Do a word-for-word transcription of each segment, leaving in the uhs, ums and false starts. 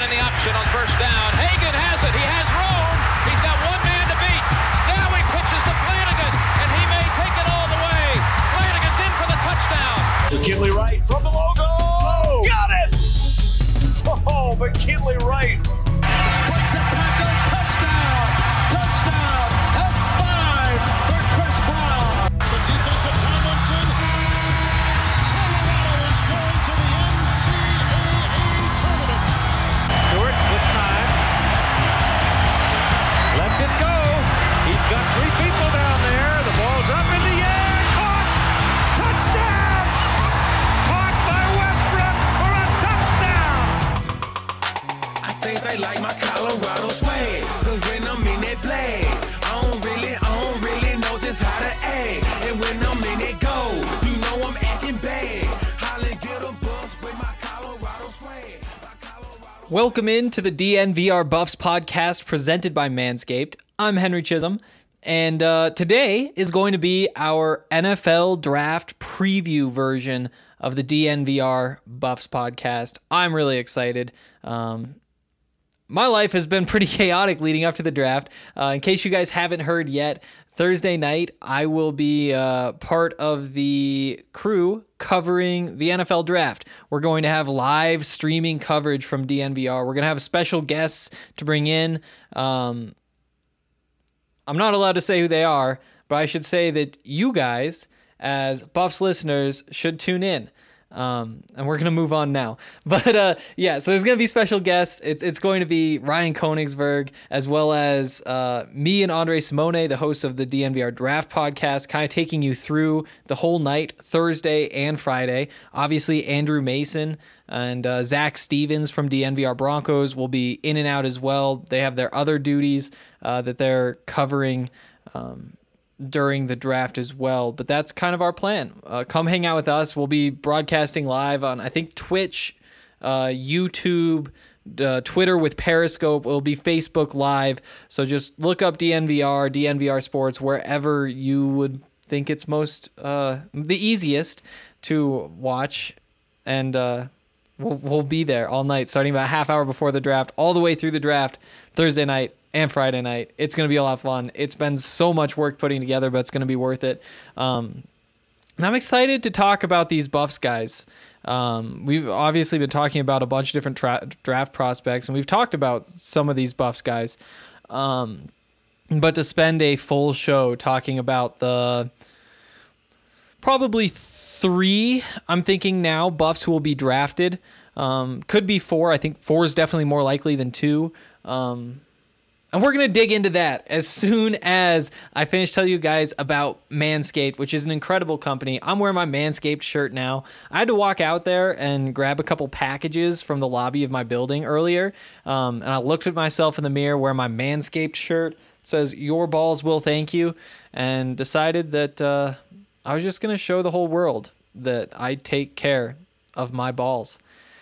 in the option on first down. Hagan has it. He has room. He's got one man to beat. Now he pitches to Flanagan, and he may take it all the way. Flanagan's in for the touchdown. McKinley Wright from the logo. Oh, got it! Oh, McKinley Wright. Breaks a tackle. Touchdown. Touchdown. That's five for Chris Brown. The defensive Tomlinson. Colorado is going to the N C double A tournament. Stewart with time. Lets it go. He's got three people down there. The ball's up in the air. Caught. Touchdown. Caught by Westbrook for a touchdown. I think they like my Colorado swag. Cause when I'm in that play, I don't really, I don't really know just how to act. And when I'm in it go, you know I'm acting bad. Holly get a bus with my Colorado swag. My Colorado Welcome in to the D N V R Buffs podcast presented by Manscaped. I'm Henry Chisholm, and uh, today is going to be our N F L draft preview version of the D N V R Buffs podcast. I'm really excited. Um, my life has been pretty chaotic leading up to the draft. Uh, in case you guys haven't heard yet, Thursday night I will be uh, part of the crew covering the N F L draft. We're going to have live streaming coverage from D N V R. We're going to have special guests to bring in. Um, I'm not allowed to say who they are, but I should say that you guys, as Buffs listeners, should tune in. Um, and we're going to move on now. But uh, yeah, so there's going to be special guests. It's it's going to be Ryan Koenigsberg, as well as uh, me and Andre Simone, the hosts of the D N V R Draft podcast, kind of taking you through the whole night, Thursday and Friday. Obviously, Andrew Mason and uh, Zach Stevens from D N V R Broncos will be in and out as well. They have their other duties uh, that they're covering um during the draft as well, but that's kind of our plan. Uh, come hang out with us. We'll be broadcasting live on, I think, Twitch, uh, YouTube, uh, Twitter with Periscope. It'll be Facebook Live. So just look up D N V R, D N V R Sports, wherever you would think it's most uh, the easiest to watch, and uh, we'll we'll be there all night, starting about a half hour before the draft, all the way through the draft, Thursday night and Friday night. It's going to be a lot of fun. It's been so much work putting together, but it's going to be worth it. Um, and I'm excited to talk about these Buffs guys. Um, we've obviously been talking about a bunch of different tra- draft prospects, and we've talked about some of these Buffs guys. Um, but to spend a full show talking about the probably three, I'm thinking now, Buffs who will be drafted. Um, could be four. I think four is definitely more likely than two. Um, And we're going to dig into that as soon as I finish telling you guys about Manscaped, which is an incredible company. I'm wearing my Manscaped shirt now. I had to walk out there and grab a couple packages from the lobby of my building earlier. Um, and I looked at myself in the mirror wearing my Manscaped shirt. It says, "Your balls will thank you." And decided that uh, I was just going to show the whole world that I take care of my balls.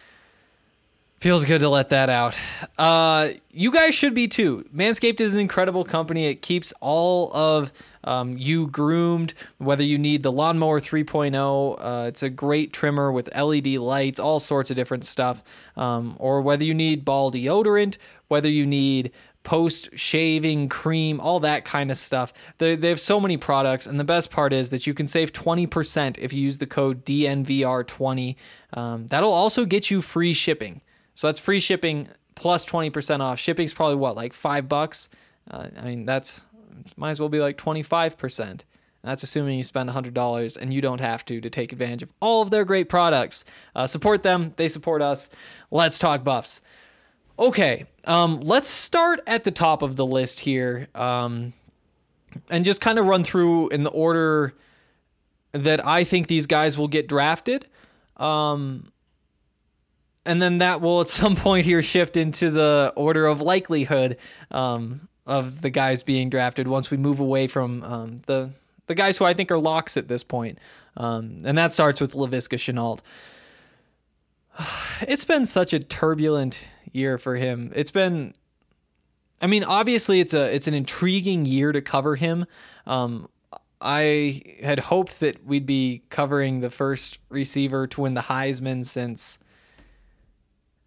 Feels good to let that out. Uh, you guys should be too. Manscaped is an incredible company. It keeps all of um, you groomed, whether you need the Lawnmower three point oh. Uh, it's a great trimmer with L E D lights, all sorts of different stuff. Um, or whether you need ball deodorant, whether you need post-shaving cream, all that kind of stuff. They, they have so many products, and the best part is that you can save twenty percent if you use the code D N V R twenty. Um, that'll also get you free shipping. So that's free shipping plus twenty percent off. Shipping's probably what, like five bucks? Uh, I mean, that's might as well be like twenty-five percent. That's assuming you spend one hundred dollars and you don't have to to take advantage of all of their great products. Uh, support them. They support us. Let's talk Buffs. Okay, um, let's start at the top of the list here um, and just kind of run through in the order that I think these guys will get drafted. Um And then that will at some point here shift into the order of likelihood um, of the guys being drafted once we move away from um, the the guys who I think are locks at this point. Um, and that starts with Laviska Shenault. It's been such a turbulent year for him. It's been, I mean, obviously it's a it's an intriguing year to cover him. Um, I had hoped that we'd be covering the first receiver to win the Heisman since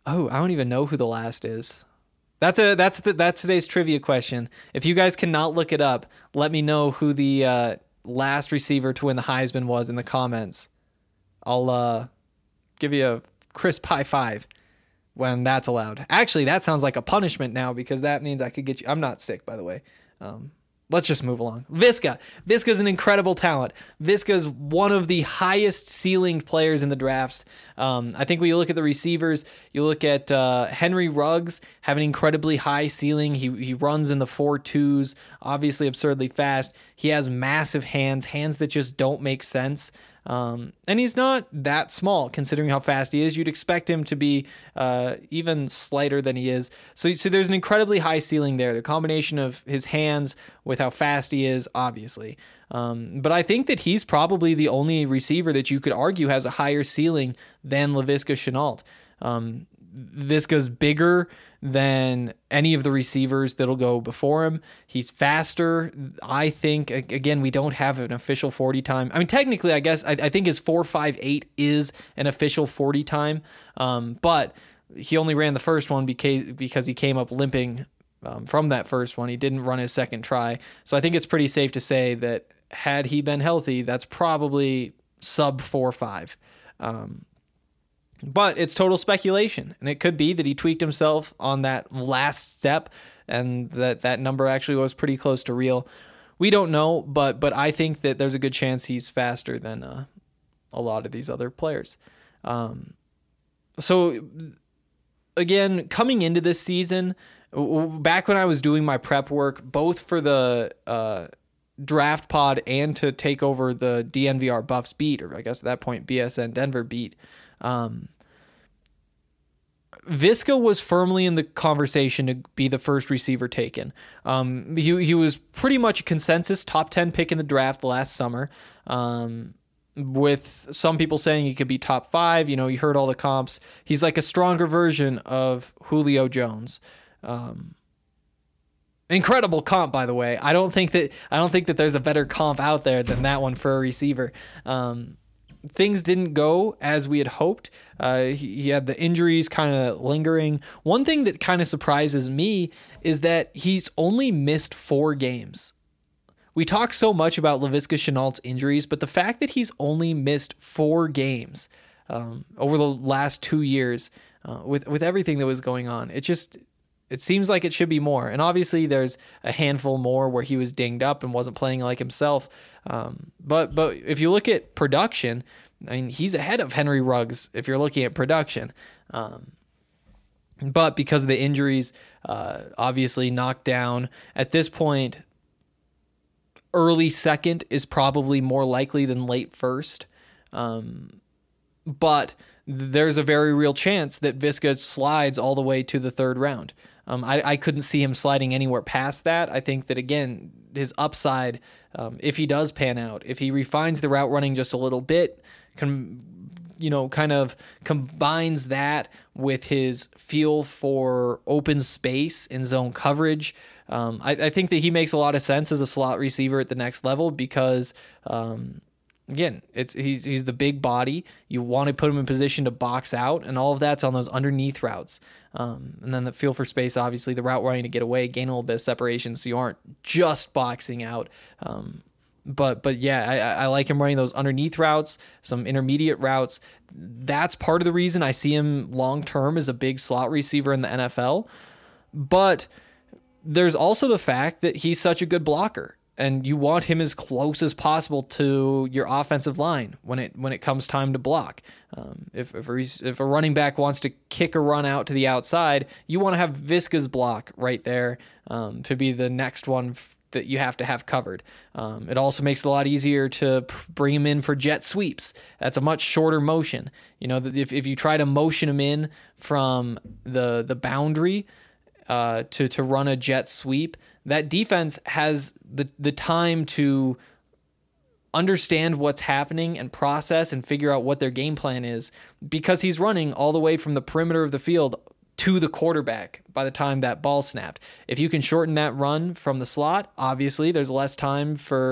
Oh, I don't even know who the last is. That's a that's the, that's today's trivia question. If you guys cannot look it up, let me know who the uh, last receiver to win the Heisman was in the comments. I'll uh, give you a crisp high five when that's allowed. Actually, that sounds like a punishment now because that means I could get you. I'm not sick, by the way. Um, let's just move along. Viska. Viska's an incredible talent. Viska's one of the highest ceilinged players in the drafts. Um, I think when you look at the receivers, you look at uh, Henry Ruggs have an incredibly high ceiling. He he runs in the four twos, obviously absurdly fast. He has massive hands, hands that just don't make sense. Um, and he's not that small considering how fast he is. You'd expect him to be uh, even slighter than he is. So, so there's an incredibly high ceiling there. The combination of his hands with how fast he is, obviously. Um, but I think that he's probably the only receiver that you could argue has a higher ceiling than Laviska Shenault. Um, Viska's bigger than any of the receivers that'll go before him. He's faster. I think, again, we don't have an official forty time. I mean, technically, I guess, I, I think his four five eight is an official forty time, um, but he only ran the first one because, because he came up limping um, from that first one. He didn't run his second try. So I think it's pretty safe to say that had he been healthy, that's probably sub four five. Um, But it's total speculation, and it could be that he tweaked himself on that last step and that that number actually was pretty close to real. We don't know, but but I think that there's a good chance he's faster than uh, a lot of these other players. Um, so, again, coming into this season, back when I was doing my prep work, both for the uh, draft pod and to take over the D N V R Buffs beat, or I guess at that point B S N Denver beat, Um, Viska was firmly in the conversation to be the first receiver taken. Um, he he was pretty much a consensus top ten pick in the draft last summer, um, with some people saying he could be top five. You know, you heard all the comps. He's like a stronger version of Julio Jones. Um, incredible comp, by the way. I don't think that I don't think that there's a better comp out there than that one for a receiver. Um, Things didn't go as we had hoped. Uh, he, he had the injuries kind of lingering. One thing that kind of surprises me is that he's only missed four games. We talk so much about Laviska Shenault's injuries, but the fact that he's only missed four games um, over the last two years uh, with, with everything that was going on, it just... It seems like it should be more. And obviously there's a handful more where he was dinged up and wasn't playing like himself. Um, but but if you look at production, I mean, he's ahead of Henry Ruggs if you're looking at production. Um, but because of the injuries, uh, obviously knocked down. At this point, early second is probably more likely than late first. Um, but there's a very real chance that Viska slides all the way to the third round. Um, I, I couldn't see him sliding anywhere past that. I think that, again, his upside, um, if he does pan out, if he refines the route running just a little bit, can, you know, kind of combines that with his feel for open space and zone coverage, um, I, I think that he makes a lot of sense as a slot receiver at the next level because, um, again, it's he's he's the big body. You want to put him in position to box out, and all of that's on those underneath routes. Um, and then the feel for space, obviously, the route running to get away, gain a little bit of separation, so you aren't just boxing out. Um, but but yeah, I, I like him running those underneath routes, some intermediate routes. That's part of the reason I see him long term as a big slot receiver in the N F L. But there's also the fact that he's such a good blocker. And you want him as close as possible to your offensive line when it when it comes time to block. Um, if if a, if a running back wants to kick a run out to the outside, you want to have Viska's block right there um, to be the next one f- that you have to have covered. Um, it also makes it a lot easier to p- bring him in for jet sweeps. That's a much shorter motion. You know, if if you try to motion him in from the the boundary uh, to to run a jet sweep, that defense has the the time to understand what's happening and process and figure out what their game plan is because he's running all the way from the perimeter of the field to the quarterback by the time that ball snapped. If you can shorten that run from the slot, obviously there's less time for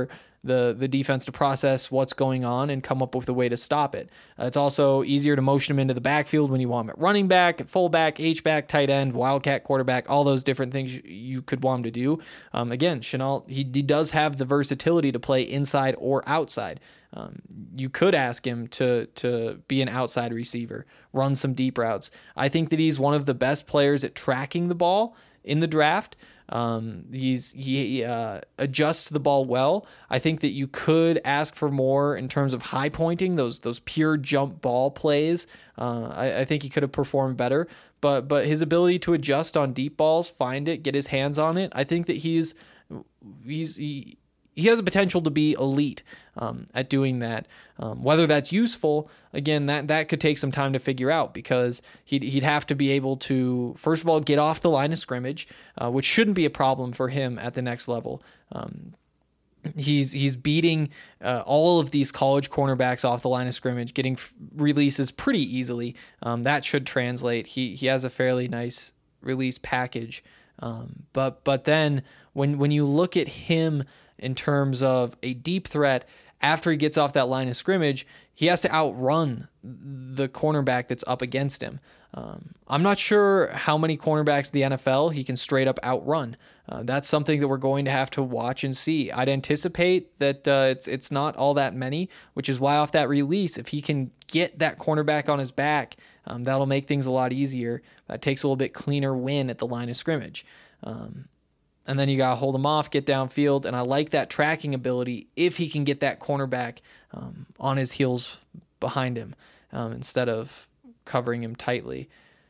the the defense to process what's going on and come up with a way to stop it. Uh, it's also easier to motion him into the backfield when you want him at running back, at fullback, H-back, tight end, wildcat quarterback, all those different things you, you could want him to do. Um, again, Shenault, he, he does have the versatility to play inside or outside. Um, you could ask him to to be an outside receiver, run some deep routes. I think that he's one of the best players at tracking the ball in the draft. Um, he's he uh, adjusts the ball well. I think that you could ask for more in terms of high pointing, those those pure jump ball plays. Uh, I, I think he could have performed better, but but his ability to adjust on deep balls, find it, get his hands on it. I think that he's he's he, he has a potential to be elite um, at doing that. Um, whether that's useful, again, that, that could take some time to figure out, because he'd, he'd have to be able to, first of all, get off the line of scrimmage, uh, which shouldn't be a problem for him at the next level. Um, he's he's beating uh, all of these college cornerbacks off the line of scrimmage, getting f- releases pretty easily. Um, that should translate. He he has a fairly nice release package. Um, but but then when when you look at him in terms of a deep threat, after he gets off that line of scrimmage, he has to outrun the cornerback that's up against him. Um, I'm not sure how many cornerbacks in the N F L he can straight up outrun. Uh, that's something that we're going to have to watch and see. I'd anticipate that uh, it's it's not all that many, which is why off that release, if he can get that cornerback on his back, um, that'll make things a lot easier. That takes a little bit cleaner win at the line of scrimmage. Um, And then you got to hold him off, get downfield. And I like that tracking ability if he can get that cornerback um, on his heels behind him um, instead of covering him tightly.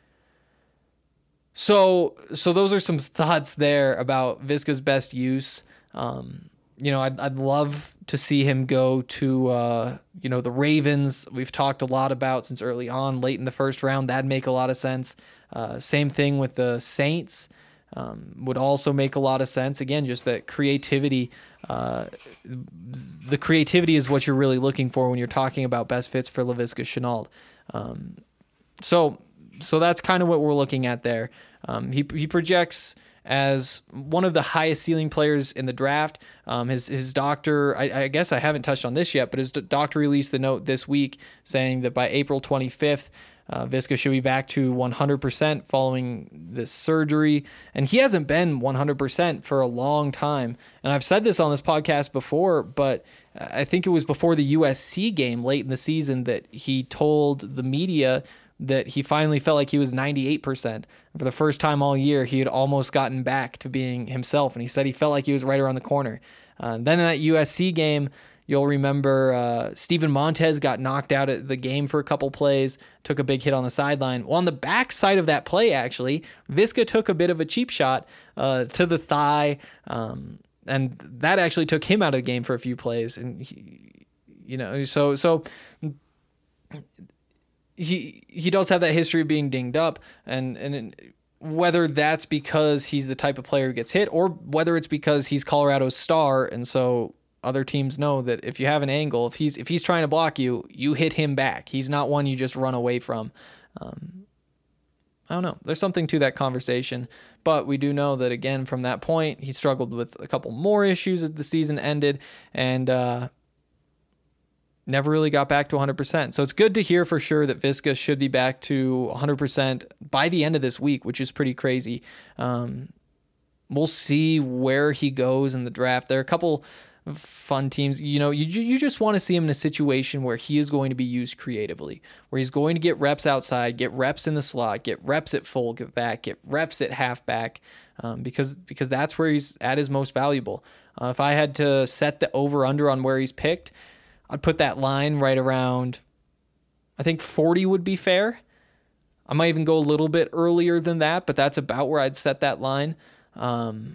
So so those are some thoughts there about Viska's best use. Um, you know, I'd, I'd love to see him go to, uh, you know, the Ravens. We've talked a lot about since early on, late in the first round. That'd make a lot of sense. Uh, same thing with the Saints. Um, would also make a lot of sense. Again, just that creativity. Uh, the creativity is what you're really looking for when you're talking about best fits for Laviska Shenault. Um, so, so that's kind of what we're looking at there. Um, he he projects as one of the highest ceiling players in the draft. Um, his his doctor, I, I guess I haven't touched on this yet, but his doctor released the note this week saying that by April twenty-fifth, Uh, Viska should be back to one hundred percent following this surgery. And he hasn't been one hundred percent for a long time. And I've said this on this podcast before, but I think it was before the U S C game late in the season that he told the media that he finally felt like he was ninety-eight percent. For the first time all year, he had almost gotten back to being himself. And he said he felt like he was right around the corner. Uh, then in that U S C game, you'll remember uh, Steven Montez got knocked out at the game for a couple plays, took a big hit on the sideline. Well, on the back side of that play, actually, Viska took a bit of a cheap shot uh, to the thigh, um, and that actually took him out of the game for a few plays. And he, you know, so so he he does have that history of being dinged up, and and. Whether that's because he's the type of player who gets hit, or whether it's because he's Colorado's star, and so other teams know that if you have an angle, if he's if he's trying to block you, you hit him back. He's not one you just run away from. Um, I don't know. There's something to that conversation, but we do know that, again, from that point, he struggled with a couple more issues as the season ended, and uh, never really got back to one hundred percent. So it's good to hear for sure that Viska should be back to one hundred percent by the end of this week, which is pretty crazy. Um, we'll see where he goes in the draft. There are a couple fun teams. You know, you you just want to see him in a situation where he is going to be used creatively, where he's going to get reps outside, get reps in the slot, get reps at full, get back, get reps at halfback, um, because because that's where he's at his most valuable. Uh, if I had to set the over-under on where he's picked, I'd put that line right around, I think forty would be fair. I might even go a little bit earlier than that, but that's about where I'd set that line. Um,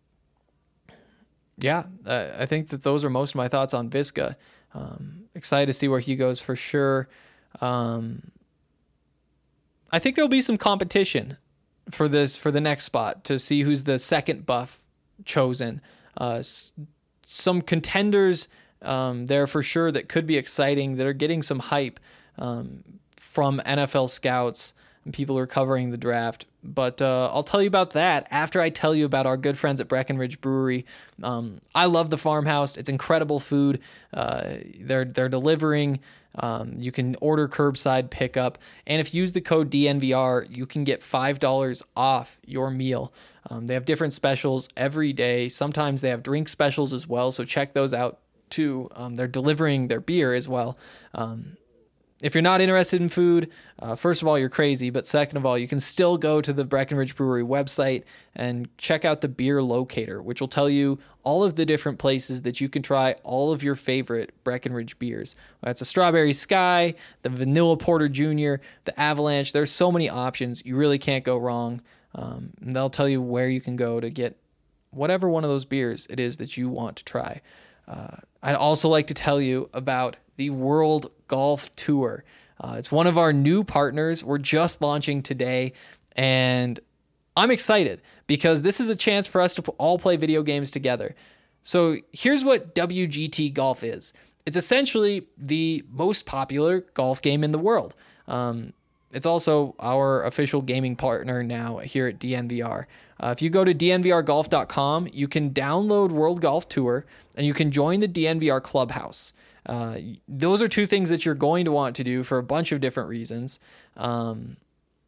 yeah, uh, I think that those are most of my thoughts on Viska. Um, excited to see where he goes for sure. Um, I think there'll be some competition for this, for the next spot, to see who's the second buff chosen. Uh, s- some contenders Um, there for sure that could be exciting, that are getting some hype um, from N F L scouts. and people are covering the draft. But uh, I'll tell you about that after I tell you about our good friends at Breckenridge Brewery. Um, I love the farmhouse. It's incredible food. Uh, they're they're delivering. Um, you can order curbside pickup. And if you use the code D N V R, you can get five dollars off your meal. Um, they have different specials every day. Sometimes they have drink specials as well, so check those out too. Um, they're delivering their beer as well. Um, if you're not interested in food, uh, first of all, you're crazy, but second of all, you can still go to the Breckenridge Brewery website and check out the beer locator, which will tell you all of the different places that you can try all of your favorite Breckenridge beers. That's a Strawberry Sky, the Vanilla Porter Junior, the Avalanche. There's so many options. You really can't go wrong. Um, and they'll tell you where you can go to get whatever one of those beers it is that you want to try. Uh, I'd also like to tell you about the World Golf Tour. Uh, it's one of our new partners. We're just launching today, and I'm excited because this is a chance for us to all play video games together. So here's what W G T Golf is. It's essentially the most popular golf game in the world. Um, It's also our official gaming partner now here at D N V R. Uh, if you go to D N V R golf dot com, you can download World Golf Tour, and you can join the D N V R Clubhouse. Uh, those are two things that you're going to want to do for a bunch of different reasons. Um,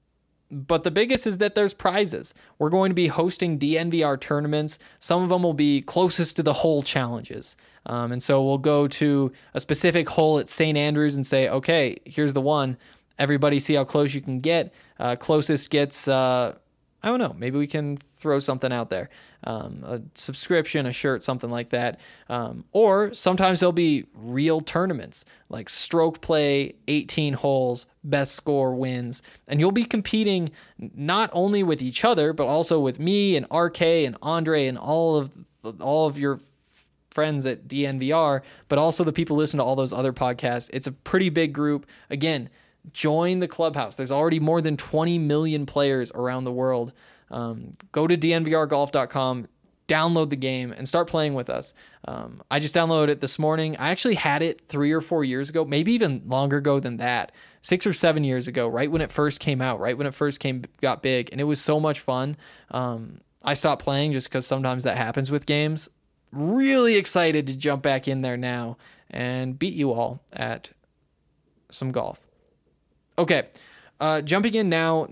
but the biggest is that there's prizes. We're going to be hosting D N V R tournaments. Some of them will be closest to the hole challenges. Um, and so we'll go to a specific hole at Saint Andrews and say, okay, here's the one. Everybody see how close you can get. Uh, closest gets, uh, I don't know, maybe we can throw something out there. Um, a subscription, a shirt, something like that. Um, or sometimes there'll be real tournaments, like stroke play, eighteen holes, best score wins. And you'll be competing not only with each other, but also with me and R K and Andre and all of all of your friends at D N V R, but also the people who listen to all those other podcasts. It's a pretty big group. Again, join the clubhouse. There's already more than twenty million players around the world. Um, go to D N V R golf dot com, download the game, and start playing with us. Um, I just downloaded it this morning. I actually had it three or four years ago, maybe even longer ago than that, six or seven years ago, right when it first came out, right when it first came got big, and it was so much fun. Um, I stopped playing just because sometimes that happens with games. Really excited to jump back in there now and beat you all at some golf. Okay, uh, jumping in now,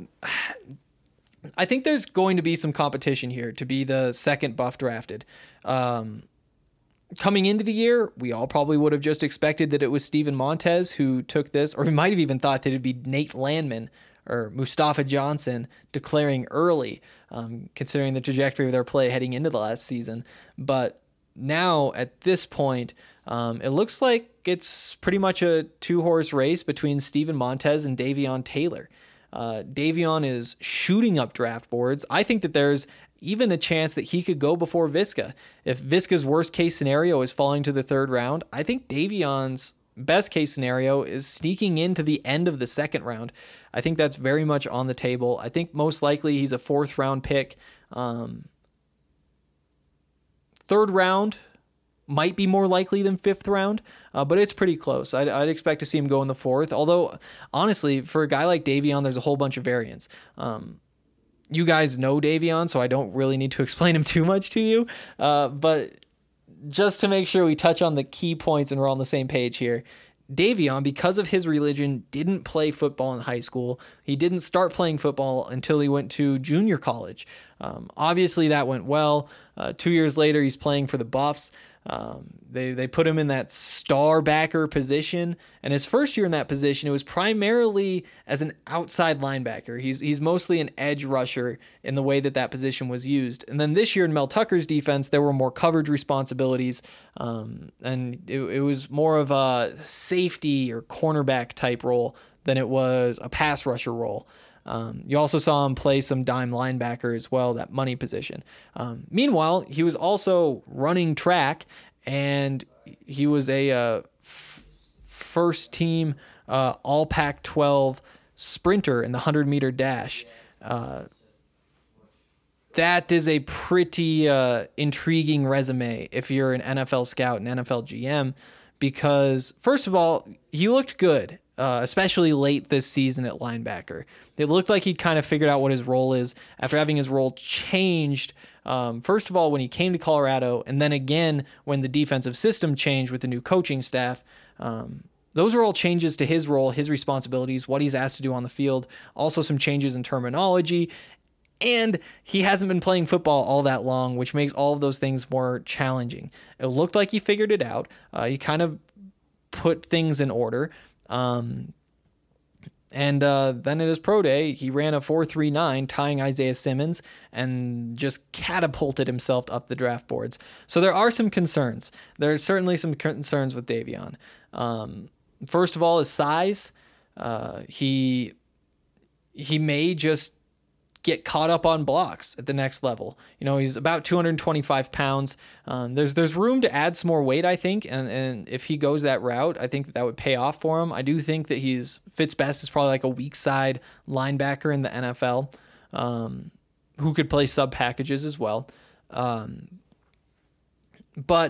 I think there's going to be some competition here to be the second buff drafted. Um, coming into the year, we all probably would have just expected that it was Steven Montez who took this, or we might have even thought that it'd be Nate Landman or Mustafa Johnson declaring early, um, considering the trajectory of their play heading into the last season. But now, at this point, um, it looks like it's pretty much a two-horse race between Steven Montez and Davion Taylor. Uh, Davion is shooting up draft boards. I think that there's even a chance that he could go before Visca. If Visca's worst-case scenario is falling to the third round, I think Davion's best-case scenario is sneaking into the end of the second round. I think that's very much on the table. I think most likely he's a fourth-round pick. Um, third round might be more likely than fifth round, uh, but it's pretty close. I'd, I'd expect to see him go in the fourth, although, honestly, for a guy like Davion, there's a whole bunch of variants. Um, you guys know Davion, so I don't really need to explain him too much to you, uh, but just to make sure we touch on the key points and we're on the same page here, Davion, because of his religion, didn't play football in high school. He didn't start playing football until he went to junior college. Um, obviously, that went well. Uh, two years later, he's playing for the Buffs. Um, they they put him in that star backer position, and his first year in that position, it was primarily as an outside linebacker. He's he's mostly an edge rusher in the way that that position was used. And then this year in Mel Tucker's defense, there were more coverage responsibilities, um, and it, it was more of a safety or cornerback type role than it was a pass rusher role. Um, you also saw him play some dime linebacker as well, that money position. Um, meanwhile, he was also running track, and he was a uh, f- first team uh, all Pac twelve sprinter in the one hundred meter dash. Uh, that is a pretty uh, intriguing resume if you're an N F L scout and N F L G M, because first of all, he looked good. uh, especially late this season at linebacker. It looked like he'd kind of figured out what his role is after having his role changed, um, first of all, when he came to Colorado, and then again when the defensive system changed with the new coaching staff. Um, those are all changes to his role, his responsibilities, what he's asked to do on the field, also some changes in terminology. And he hasn't been playing football all that long, which makes all of those things more challenging. It looked like he figured it out. Uh, he kind of put things in order. Um, and uh, then at his pro day, he ran a four three nine, tying Isaiah Simmons, and just catapulted himself up the draft boards. So there are some concerns. There's certainly some concerns with Davion. Um, first of all, his size. Uh, he he may just get caught up on blocks at the next level. You know, he's about two hundred twenty-five pounds. Um, there's there's room to add some more weight, I think, and and if he goes that route, I think that, that would pay off for him. I do think that he's fits best as probably like a weak side linebacker in the N F L, um, who could play sub packages as well. Um, but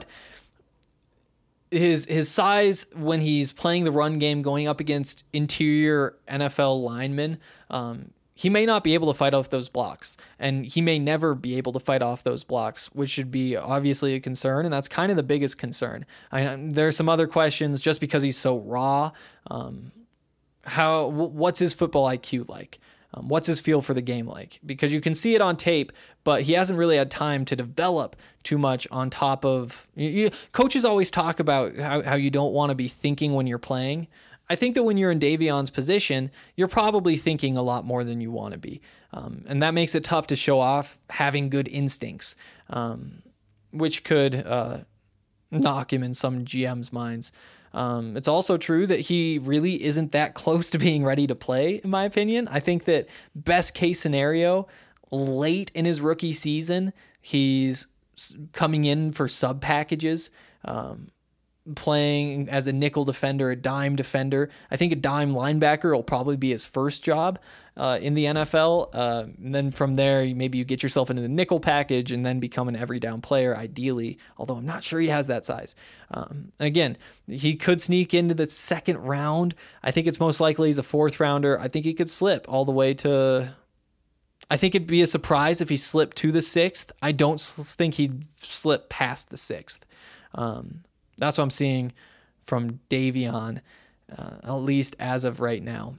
his his size when he's playing the run game, going up against interior N F L linemen, um, he may not be able to fight off those blocks, and he may never be able to fight off those blocks, which should be obviously a concern, and that's kind of the biggest concern. I know there are some other questions just because he's so raw. Um, how what's his football I Q like? Um, what's his feel for the game like? Because you can see it on tape, but he hasn't really had time to develop too much on top of... You, you, coaches always talk about how, how you don't want to be thinking when you're playing. I think that when you're in Davion's position, you're probably thinking a lot more than you want to be. Um, and that makes it tough to show off having good instincts, um, which could uh, knock him in some G M's minds. Um, it's also true that he really isn't that close to being ready to play, in my opinion. I think that best case scenario, late in his rookie season, he's coming in for sub packages, um, playing as a nickel defender, a dime defender. I think a dime linebacker will probably be his first job uh, in the N F L. Uh, and then from there, maybe you get yourself into the nickel package and then become an every down player, ideally, although I'm not sure he has that size. Um, again, he could sneak into the second round. I think it's most likely he's a fourth rounder. I think he could slip all the way to... I think it'd be a surprise if he slipped to the sixth. I don't think he'd slip past the sixth. Um, That's what I'm seeing from Davion, uh, at least as of right now.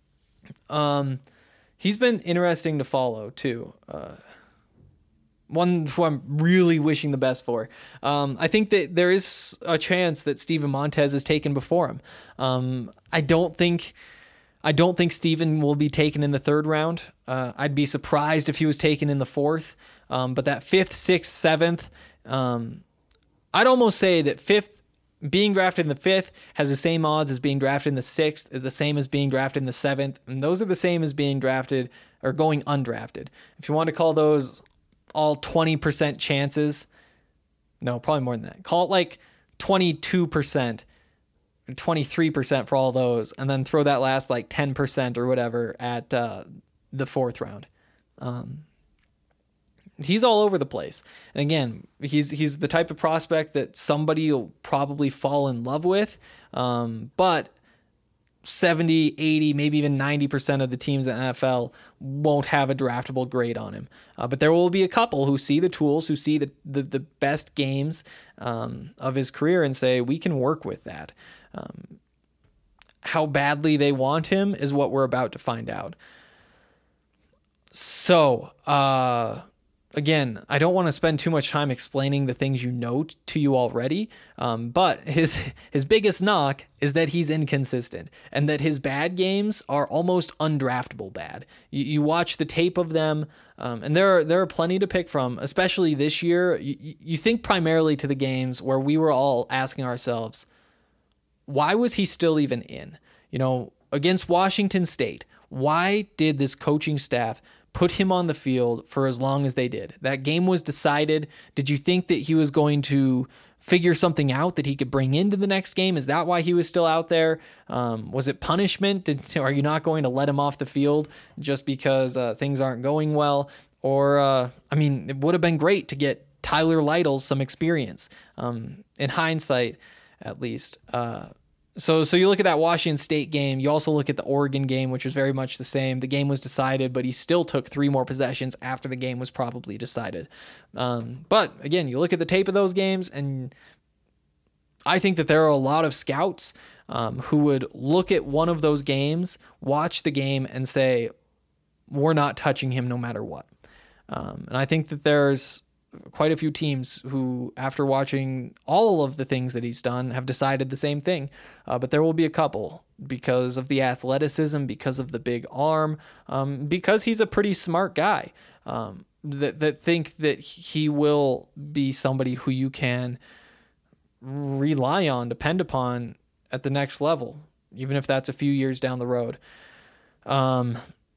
Um, he's been interesting to follow, too. Uh, one who I'm really wishing the best for. Um, I think that there is a chance that Steven Montez is taken before him. Um, I don't think... I don't think Steven will be taken in the third round. Uh, I'd be surprised if he was taken in the fourth. Um, but that fifth, sixth, seventh... Um, I'd almost say that fifth, being drafted in the fifth has the same odds as being drafted in the sixth, is the same as being drafted in the seventh, and those are the same as being drafted or going undrafted. If you want to call those all twenty percent chances, no, probably more than that. Call it like twenty-two percent, twenty-three percent for all those, and then throw that last like ten percent or whatever at uh, the fourth round. Um, He's all over the place. And again, he's he's the type of prospect that somebody will probably fall in love with. Um, but seventy, eighty, maybe even ninety percent of the teams in the N F L won't have a draftable grade on him. Uh, but there will be a couple who see the tools, who see the, the, the best games um, of his career and say, we can work with that. Um, how badly they want him is what we're about to find out. So, uh... Again, I don't want to spend too much time explaining the things you know t- to you already, um, but his his biggest knock is that he's inconsistent and that his bad games are almost undraftable bad. You, you watch the tape of them, um, and there are there are plenty to pick from, especially this year. You, you think primarily to the games where we were all asking ourselves, why was he still even in? You know, against Washington State, why did this coaching staff put him on the field for as long as they did? That game was decided. Did you think that he was going to figure something out that he could bring into the next game? Is that why he was still out there? Um, was it punishment? Did, are you not going to let him off the field just because uh, things aren't going well? Or, uh, I mean, it would have been great to get Tyler Lytle some experience, um, in hindsight, at least. Uh, So so you look at that Washington State game. You also look at the Oregon game, which was very much the same. The game was decided, but he still took three more possessions after the game was probably decided. Um, but again, you look at the tape of those games, and I think that there are a lot of scouts um, who would look at one of those games, watch the game, and say, we're not touching him no matter what. Um, and I think that there's quite a few teams who, after watching all of the things that he's done, have decided the same thing. Uh, but there will be a couple because of the athleticism, because of the big arm, um, because he's a pretty smart guy, um, that, that think that he will be somebody who you can rely on, depend upon at the next level, even if that's a few years down the road. Um,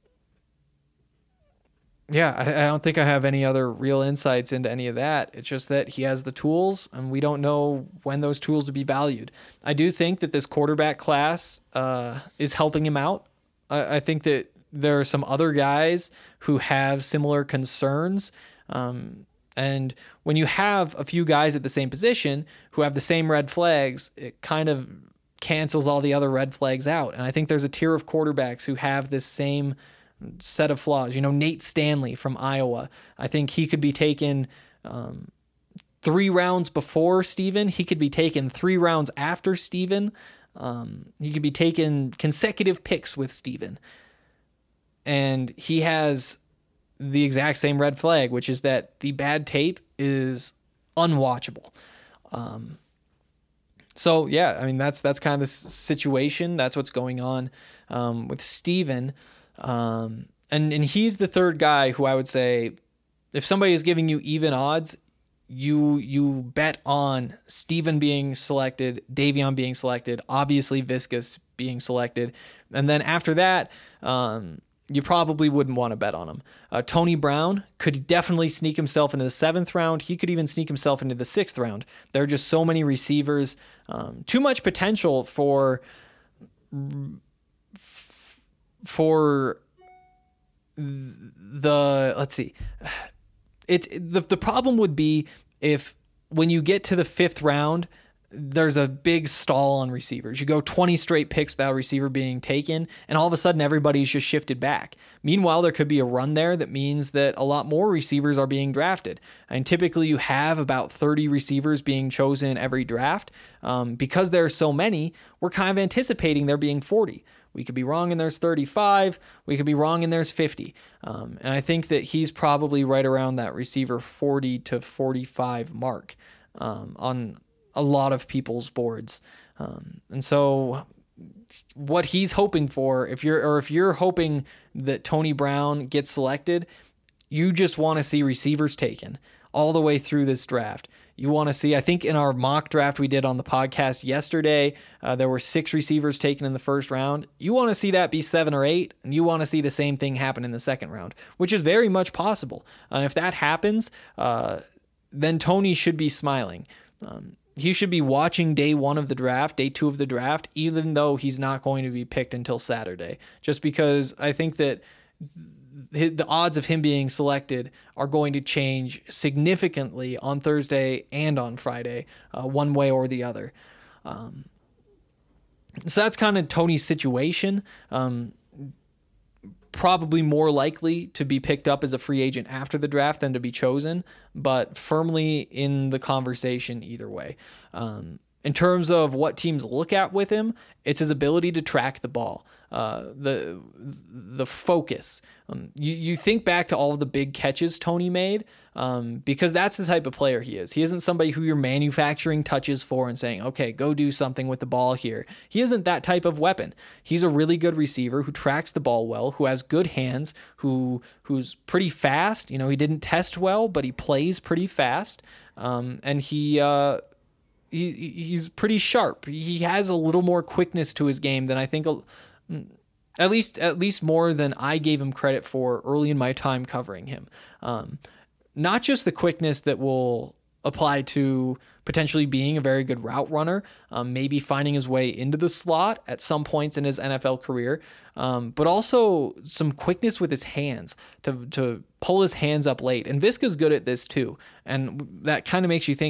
Yeah, I, I don't think I have any other real insights into any of that. It's just that he has the tools, and we don't know when those tools will be valued. I do think that this quarterback class uh, is helping him out. I, I think that there are some other guys who have similar concerns. Um, and when you have a few guys at the same position who have the same red flags, it kind of cancels all the other red flags out. And I think there's a tier of quarterbacks who have this same set of flaws. You know, Nate Stanley from Iowa. I think he could be taken um, three rounds before Steven. He could be taken three rounds after Steven. Um, he could be taken consecutive picks with Steven. And he has the exact same red flag, which is that the bad tape is unwatchable. Um, so, yeah, I mean, that's that's kind of the situation. That's what's going on um, with Steven. Um, and, and he's the third guy who I would say, if somebody is giving you even odds, you, you bet on Steven being selected, Davion being selected, obviously Viscus being selected. And then after that, um, you probably wouldn't want to bet on him. Uh, Tony Brown could definitely sneak himself into the seventh round. He could even sneak himself into the sixth round. There are just so many receivers, um, too much potential for, for the, let's see, it's the, the problem would be if when you get to the fifth round, there's a big stall on receivers. You go twenty straight picks without a receiver being taken, and all of a sudden everybody's just shifted back. Meanwhile, there could be a run there that means that a lot more receivers are being drafted. And typically you have about thirty receivers being chosen every draft. Um, because there are so many, we're kind of anticipating there being forty. We could be wrong and there's thirty-five. We could be wrong and there's fifty. Um, and I think that he's probably right around that receiver forty to forty-five mark um, on a lot of people's boards. Um, and so what he's hoping for, if you're, or if you're hoping that Tony Brown gets selected, you just want to see receivers taken all the way through this draft. You want to see, I think in our mock draft we did on the podcast yesterday, uh, there were six receivers taken in the first round. You want to see that be seven or eight, and you want to see the same thing happen in the second round, which is very much possible. And if that happens, uh, then Tony should be smiling. Um, He should be watching day one of the draft, day two of the draft, even though he's not going to be picked until Saturday, just because I think that the odds of him being selected are going to change significantly on Thursday and on Friday, uh, one way or the other. Um, so that's kind of Tony's situation. Um, probably more likely to be picked up as a free agent after the draft than to be chosen, but firmly in the conversation either way. Um, in terms of what teams look at with him, it's his ability to track the ball, uh, the the focus. Um, you, you think back to all of the big catches Tony made, um, because that's the type of player he is. He isn't somebody who you're manufacturing touches for and saying, okay, go do something with the ball here. He isn't that type of weapon. He's a really good receiver who tracks the ball well, who has good hands, who who's pretty fast. You know, he didn't test well, but he plays pretty fast, um, and he... Uh, He, he's pretty sharp. He has a little more quickness to his game than I think, at least at least more than I gave him credit for early in my time covering him. Um, not just the quickness that will apply to potentially being a very good route runner, um, maybe finding his way into the slot at some points in his N F L career, um, but also some quickness with his hands to to pull his hands up late. And Visca's good at this too, and that kind of makes you think that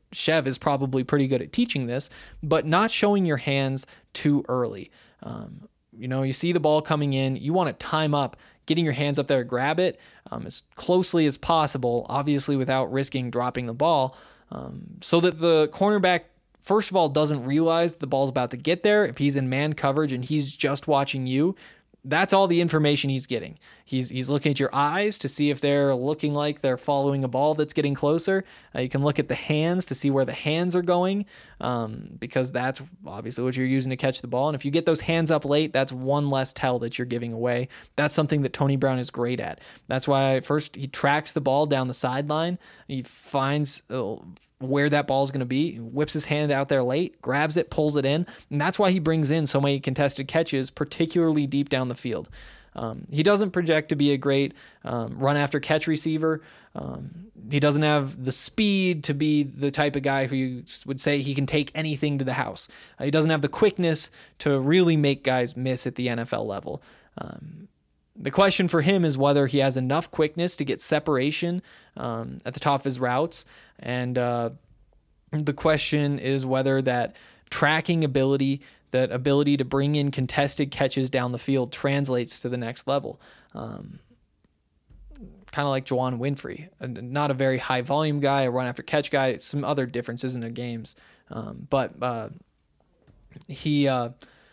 Chev is probably pretty good at teaching this, but not showing your hands too early. Um, you know, you see the ball coming in, you want to time up, getting your hands up there to grab it um, as closely as possible, obviously without risking dropping the ball, um, so that the cornerback, first of all, doesn't realize the ball's about to get there. If he's in man coverage and he's just watching you, that's all the information he's getting. He's he's looking at your eyes to see if they're looking like they're following a ball that's getting closer. Uh, you can look at the hands to see where the hands are going, um, because that's obviously what you're using to catch the ball. And if you get those hands up late, that's one less tell that you're giving away. That's something that Tony Brown is great at. That's why first he tracks the ball down the sideline. He finds uh, where that ball is going to be, whips his hand out there late, grabs it, pulls it in. And that's why he brings in so many contested catches, particularly deep down the field. Um, he doesn't project to be a great um, run after catch receiver. Um, he doesn't have the speed to be the type of guy who you would say he can take anything to the house. Uh, he doesn't have the quickness to really make guys miss at the N F L level. Um, the question for him is whether he has enough quickness to get separation um, at the top of his routes. And uh, the question is whether that tracking ability, that ability to bring in contested catches down the field translates to the next level. Um, kind of like Juwann Winfrey, not a very high volume guy, a run after catch guy, some other differences in their games. Um, but uh, he uh,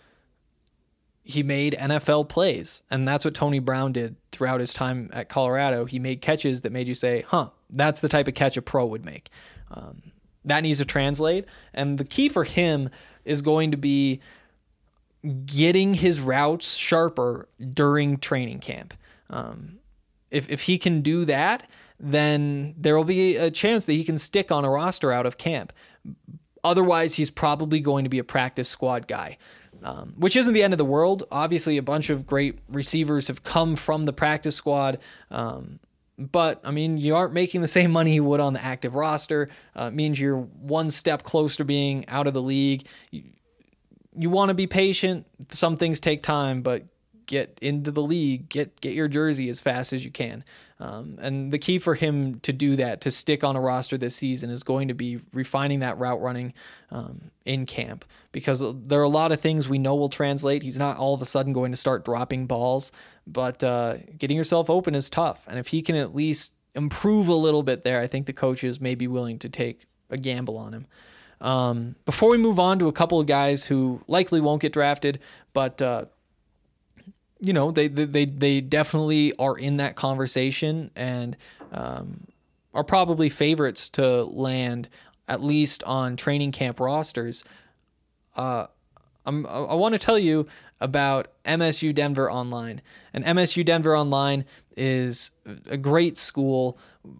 he made N F L plays, and that's what Tony Brown did throughout his time at Colorado. He made catches that made you say, huh, that's the type of catch a pro would make. Um, that needs to translate, and the key for him is going to be getting his routes sharper during training camp. Um, if if he can do that, then there will be a chance that he can stick on a roster out of camp. Otherwise, he's probably going to be a practice squad guy, um, which isn't the end of the world. Obviously, a bunch of great receivers have come from the practice squad. Um, But, I mean, you aren't making the same money you would on the active roster. Uh, it means you're one step closer to being out of the league. You, you want to be patient. Some things take time, but get into the league. Get get your jersey as fast as you can. Um, and the key for him to do that, to stick on a roster this season, is going to be refining that route running um, in camp. Because there are a lot of things we know will translate. He's not all of a sudden going to start dropping balls. But uh, getting yourself open is tough. And if he can at least improve a little bit there, I think the coaches may be willing to take a gamble on him. Um, before we move on to a couple of guys who likely won't get drafted, but uh, you know, they, they they definitely are in that conversation and um, are probably favorites to land at least on training camp rosters. Uh, I'm, I want to tell you about M S U Denver Online. And M S U Denver Online is a great school.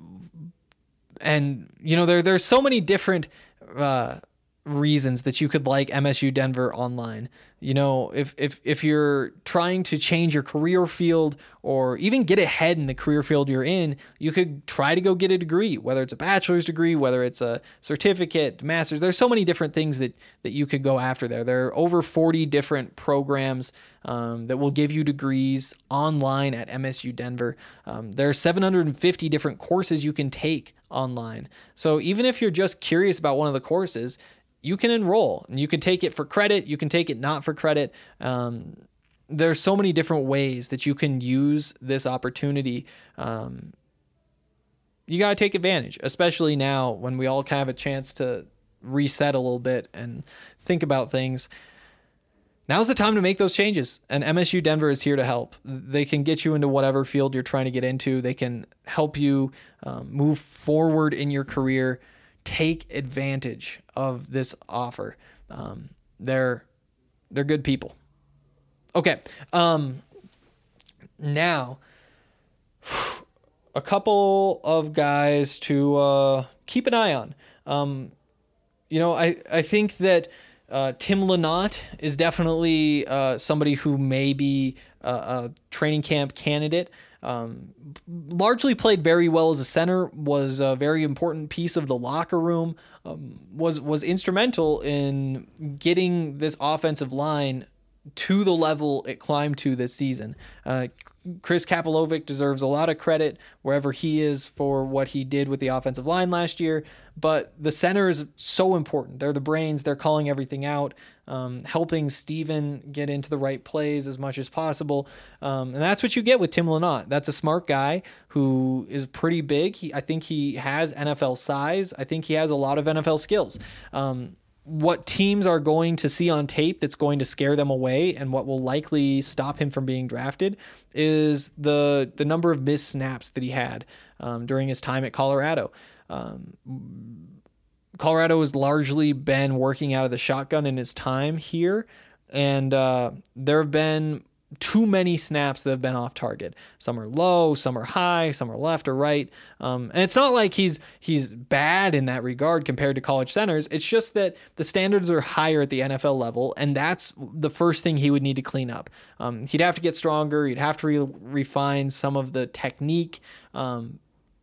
And, you know, there there's so many different uh, reasons that you could like M S U Denver Online. You know, if, if, if you're trying to change your career field or even get ahead in the career field you're in, you could try to go get a degree, whether it's a bachelor's degree, whether it's a certificate, master's. There's so many different things that, that you could go after there. There are over forty different programs um, that will give you degrees online at M S U Denver. Um, there are seven hundred fifty different courses you can take online. So even if you're just curious about one of the courses, you can enroll and you can take it for credit. You can take it not for credit. Um, there's so many different ways that you can use this opportunity. Um, you got to take advantage, especially now when we all kind of have a chance to reset a little bit and think about things. Now's the time to make those changes, and M S U Denver is here to help. They can get you into whatever field you're trying to get into. They can help you um, move forward in your career. Take advantage of this offer. Um, they're they're good people. Okay. Um, now, a couple of guys to uh, keep an eye on. Um, you know, I, I think that uh, Tim Lynott is definitely uh, somebody who may be a, a training camp candidate. Um, largely played very well as a center, was a very important piece of the locker room, um, was was instrumental in getting this offensive line to the level it climbed to this season. Uh, Chris Kapilovic deserves a lot of credit wherever he is for what he did with the offensive line last year, but the center is so important. They're the brains. They're calling everything out, um, helping Steven get into the right plays as much as possible. Um, and that's what you get with Tim Lynott. That's a smart guy who is pretty big. He, I think he has N F L size. I think he has a lot of N F L skills. Um, What teams are going to see on tape that's going to scare them away and what will likely stop him from being drafted is the the number of missed snaps that he had um, during his time at Colorado. Um, Colorado has largely been working out of the shotgun in his time here, and uh, there have been too many snaps that have been off target. Some are low, some are high, some are left or right. Um, and it's not like he's he's bad in that regard compared to college centers. It's just that the standards are higher at the N F L level, and that's the first thing he would need to clean up. Um, he'd have to get stronger. He'd have to re- refine some of the technique. Um,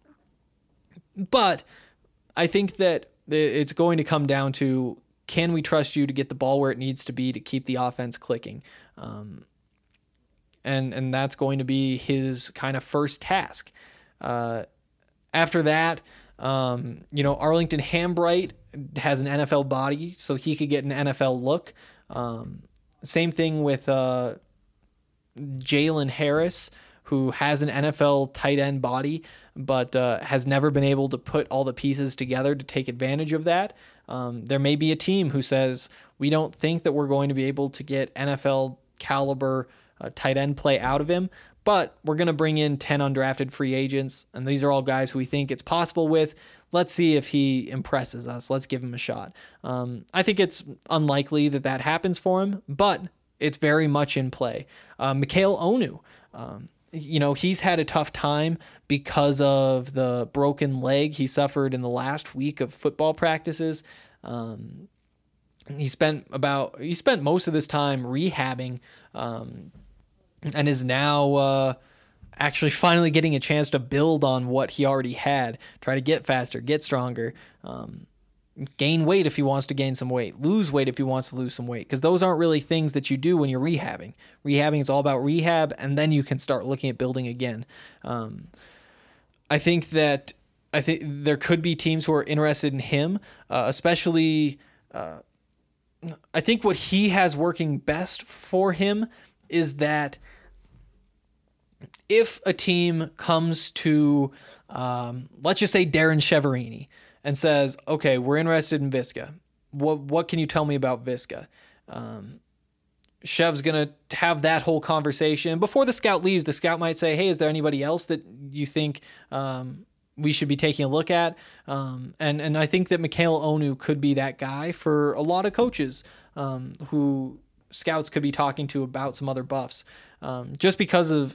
but I think that it's going to come down to, can we trust you to get the ball where it needs to be to keep the offense clicking? Um, And and that's going to be his kind of first task. Uh, after that, um, you know, Arlington Hambright has an N F L body, so he could get an N F L look. Um, same thing with uh, Jalen Harris, who has an N F L tight end body, but uh, has never been able to put all the pieces together to take advantage of that. Um, there may be a team who says, we don't think that we're going to be able to get N F L caliber Uh, tight end play out of him, but we're going to bring in ten undrafted free agents, and these are all guys who we think it's possible with. Let's see if he impresses us. Let's give him a shot. Um, I think it's unlikely that that happens for him, but it's very much in play. Uh, Mikhail Onu, um, you know, he's had a tough time because of the broken leg he suffered in the last week of football practices. Um, he spent about he spent most of this time rehabbing, um, and is now uh, actually finally getting a chance to build on what he already had, try to get faster, get stronger, um, gain weight if he wants to gain some weight, lose weight if he wants to lose some weight, because those aren't really things that you do when you're rehabbing. Rehabbing is all about rehab, and then you can start looking at building again. Um, I think that I think there could be teams who are interested in him, uh, especially uh, I think what he has working best for him is that if a team comes to, um, let's just say Darren Cheverini, and says, okay, we're interested in Viska. What what can you tell me about Viska? Um, Chev's going to have that whole conversation. Before the scout leaves, the scout might say, hey, is there anybody else that you think um, we should be taking a look at? Um, and, and I think that Mikhail Onu could be that guy for a lot of coaches um, who scouts could be talking to about some other buffs. Um, just because of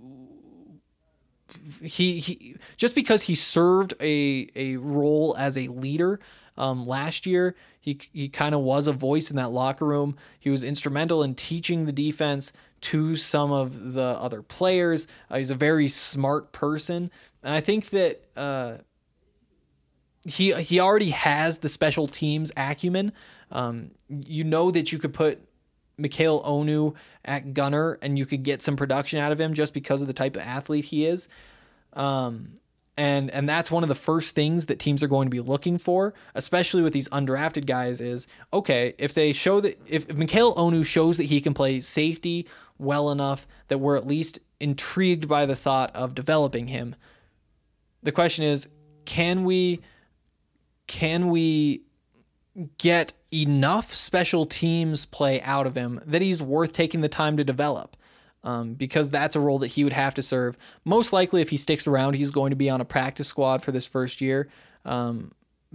he, he just because he served a a role as a leader um, last year, he he kind of was a voice in that locker room. He was instrumental in teaching the defense to some of the other players. Uh, he's a very smart person, and I think that uh, he he already has the special teams acumen. Um, you know that you could put Mikhail Onu at gunner and you could get some production out of him just because of the type of athlete he is. Um, and, and that's one of the first things that teams are going to be looking for, especially with these undrafted guys, is, okay, if they show that, if, if Mikhail Onu shows that he can play safety well enough that we're at least intrigued by the thought of developing him, the question is, can we, can we get enough special teams play out of him that he's worth taking the time to develop? Um, because that's a role that he would have to serve. Most likely, if he sticks around, he's going to be on a practice squad for this first year. Um,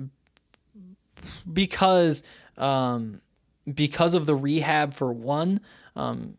because um, because of the rehab for one, um,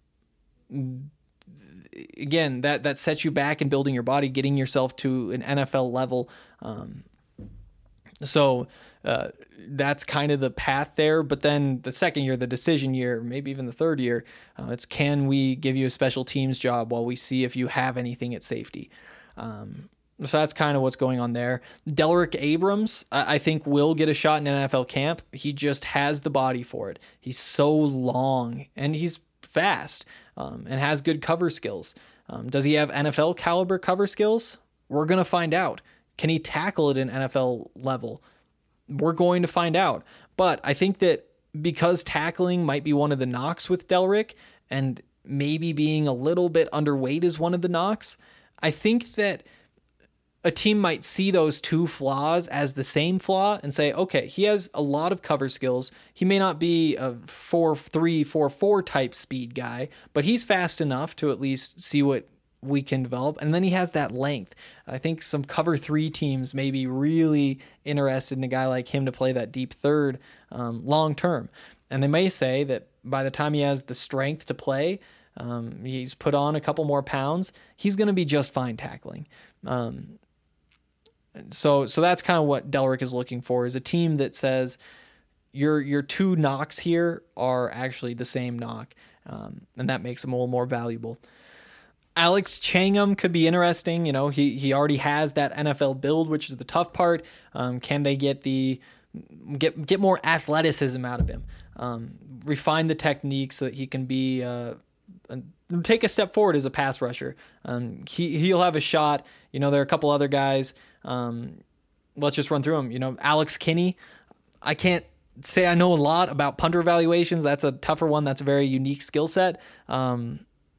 again, that, that sets you back in building your body, getting yourself to an N F L level. Um, so uh, that's kind of the path there. But then the second year, the decision year, maybe even the third year, uh, it's, can we give you a special teams job while we see if you have anything at safety? Um, so that's kind of what's going on there. Delrick Abrams, I, I think, will get a shot in N F L camp. He just has the body for it. He's so long, and he's fast um, and has good cover skills. Um, does he have N F L caliber cover skills? We're going to find out. Can he tackle at an N F L level? We're going to find out. But I think that because tackling might be one of the knocks with Delrick, and maybe being a little bit underweight is one of the knocks, I think that a team might see those two flaws as the same flaw and say, okay, he has a lot of cover skills. He may not be a four three, four four type speed guy, but he's fast enough to at least see what we can develop. And then he has that length. I think some cover three teams may be really interested in a guy like him to play that deep third um, long term. And they may say that by the time he has the strength to play, um, he's put on a couple more pounds, he's going to be just fine tackling. Um, so so that's kind of what Delrick is looking for, is a team that says your your two knocks here are actually the same knock, um, and that makes him a little more valuable. Alex Changham could be interesting. You know, he he already has that N F L build, which is the tough part. Um, can they get the get get more athleticism out of him? Um, refine the technique so that he can be uh, a, take a step forward as a pass rusher. Um, he he'll have a shot. You know, there are a couple other guys. Um, let's just run through them. You know, Alex Kinney. I can't say I know a lot about punter evaluations. That's a tougher one. That's a very unique skill set. Um,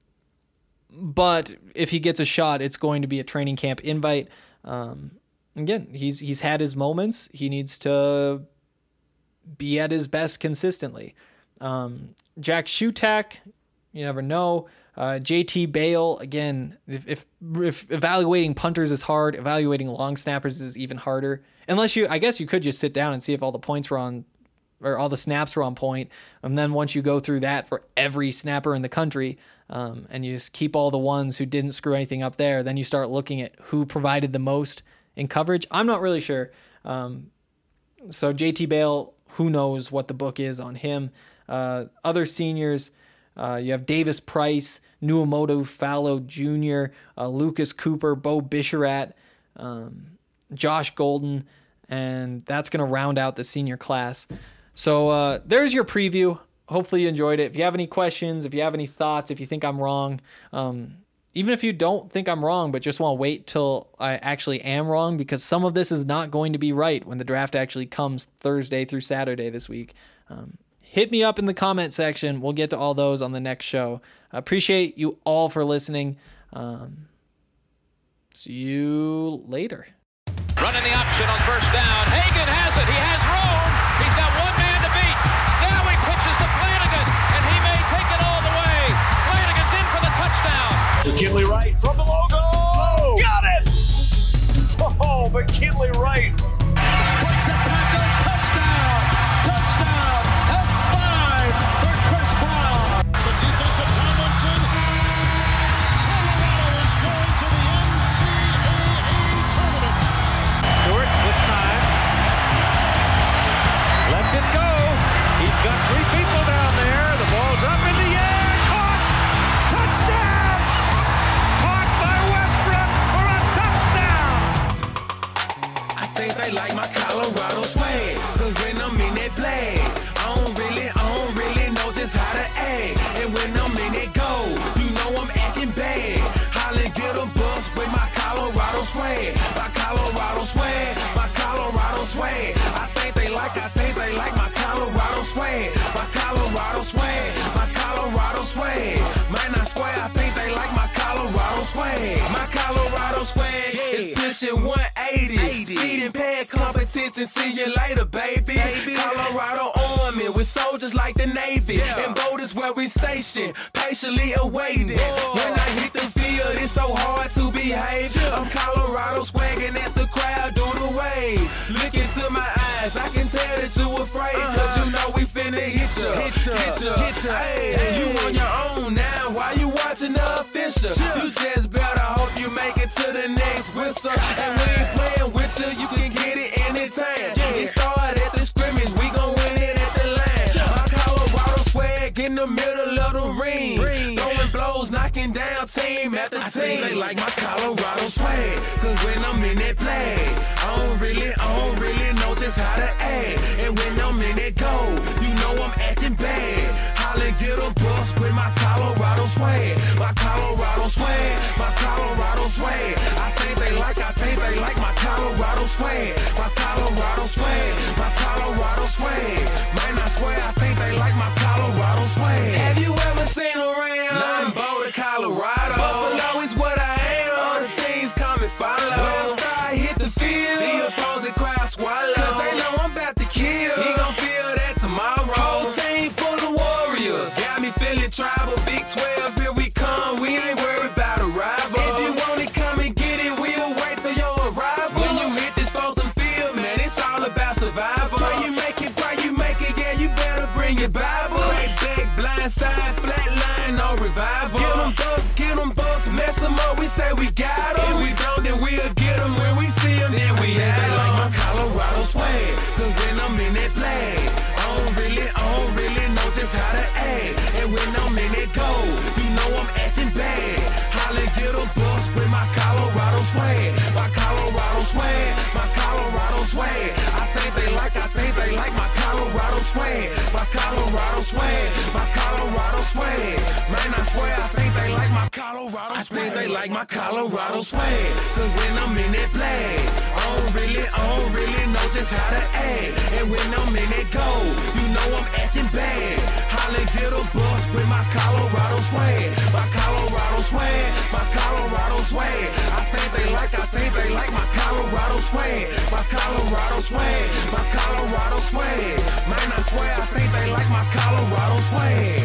But if he gets a shot, it's going to be a training camp invite. Um, again, he's he's had his moments. He needs to be at his best consistently. Um, Jack Shutak, you never know. Uh, J T Bale, again, if, if if evaluating punters is hard, evaluating long snappers is even harder. Unless you, I guess you could just sit down and see if all the points were on, or all the snaps were on point. And then once you go through that for every snapper in the country, um, and you just keep all the ones who didn't screw anything up there, then you start looking at who provided the most in coverage. I'm not really sure. Um, so J T Bale, who knows what the book is on him. Uh, other seniors, uh, you have Davis Price, Nuamoto Fallow Junior, uh, Lucas Cooper, Bo Bisharat, um, Josh Golden, and that's going to round out the senior class. So uh, there's your preview. Hopefully you enjoyed it. If you have any questions, if you have any thoughts, if you think I'm wrong, um, even if you don't think I'm wrong, but just want to wait till I actually am wrong, because some of this is not going to be right when the draft actually comes Thursday through Saturday this week. Um, hit me up in the comment section. We'll get to all those on the next show. I appreciate you all for listening. Um, see you later. Running the option on first down. Hagan has it. He has room. He's got one man to beat. Now he pitches to Flanagan, and he may take it all the way. Flanagan's in for the touchdown. McKinley Wright from the logo. Got it! Oh, McKinley Wright. Breaks a tackle, touchdown! Touchdown! That's five for Chris Brown! The defensive Tomlinson. Colorado is going to the N C double A tournament. Stewart with time. Lets it go. He's got three people down there. The ball's up in the air. Caught! Touchdown! Caught by Westbrook for a touchdown! I think they like my Colorado swag, cause when I'm in that play, I don't really, I don't really know just how to act. And when I'm in that go, you know I'm acting bad. Holland get a bus with my Colorado swag, my Colorado swag, my Colorado swag. I think they like, I think they like my Colorado swag, my Colorado swag, my Colorado swag. Might not swear, I think they like my Colorado swag, my Colorado swag is pushing one eighty. Speed and pad competition, see you later, baby. Colorado Army with soldiers like the Navy, and boat is where we station, patiently awaiting. When I hit the field, it's so hard to behave. I'm Colorado swagging as the crowd do the wave. Look into my eyes, I can tell that you afraid, cause you know we finna hit ya, hit ya, hit ya, hit ya. Hey, you on your own now, why you watching the official? You just better hope you make it to the next whistle. And we ain't playing with you, you can get it anytime. It started at the scrimmage, we gon' win it at the line. My Colorado swag in the middle of the ring, throwing blows, knocking down team after team. I think they like my Colorado swag, cause when I'm in that play, I don't really, I don't really know just how to act. And when I'm in that go, you know I'm acting bad. Holla, get a bus with my Colorado swag. My Colorado swag, my Colorado swag. I think they like, I think they like my Colorado swag. My Colorado swag, my Colorado swag. Man, I swear I think they like my Colorado swag. Have you ever seen around? Nah, I'm Boulder, Colorado. Buffalo is what I am. All the teams come and follow. When Star hit the field, the opposing crowd swallow. Cause they know I'm about to kill. He gon' feel that tomorrow. Whole team full of warriors. Got me feeling tribal. Big twelve, here we come. We ain't worried about a rival. If you want it, come and get it. We'll wait for your arrival. When you hit this frozen field, man, it's all about survival. Pray you make it, pray you make it. Yeah, you better bring your Bible. Crack back, blind side, flat line, no revival. Get them bucks, get them bucks, mess them up. We say we got them. If we don't, then we'll get them. When we see them, then we have them. Like my Colorado swag, cause when I'm in that flag, I don't really, I don't really know just how to act. And when I'm in that goal, you know I'm acting bad. Holla, get a bus with my Colorado swag. My Colorado swag, my Colorado swag. I think they like, I think they like my Colorado swag. My Colorado swag, my Colorado swag. Man, I swear I think they like my Colorado swag. I think they like my Colorado swag. Cause when I'm in that flag, I don't really, I don't really know just how to act. And when I'm in that goal, you know I'm acting bad. Holla, get a bus with my Colorado swag. My Colorado swag, my Colorado swag. I think they like, I think they like my Colorado swag. My Colorado swag, my Colorado swag. Man, I swear I think they like my Colorado swag.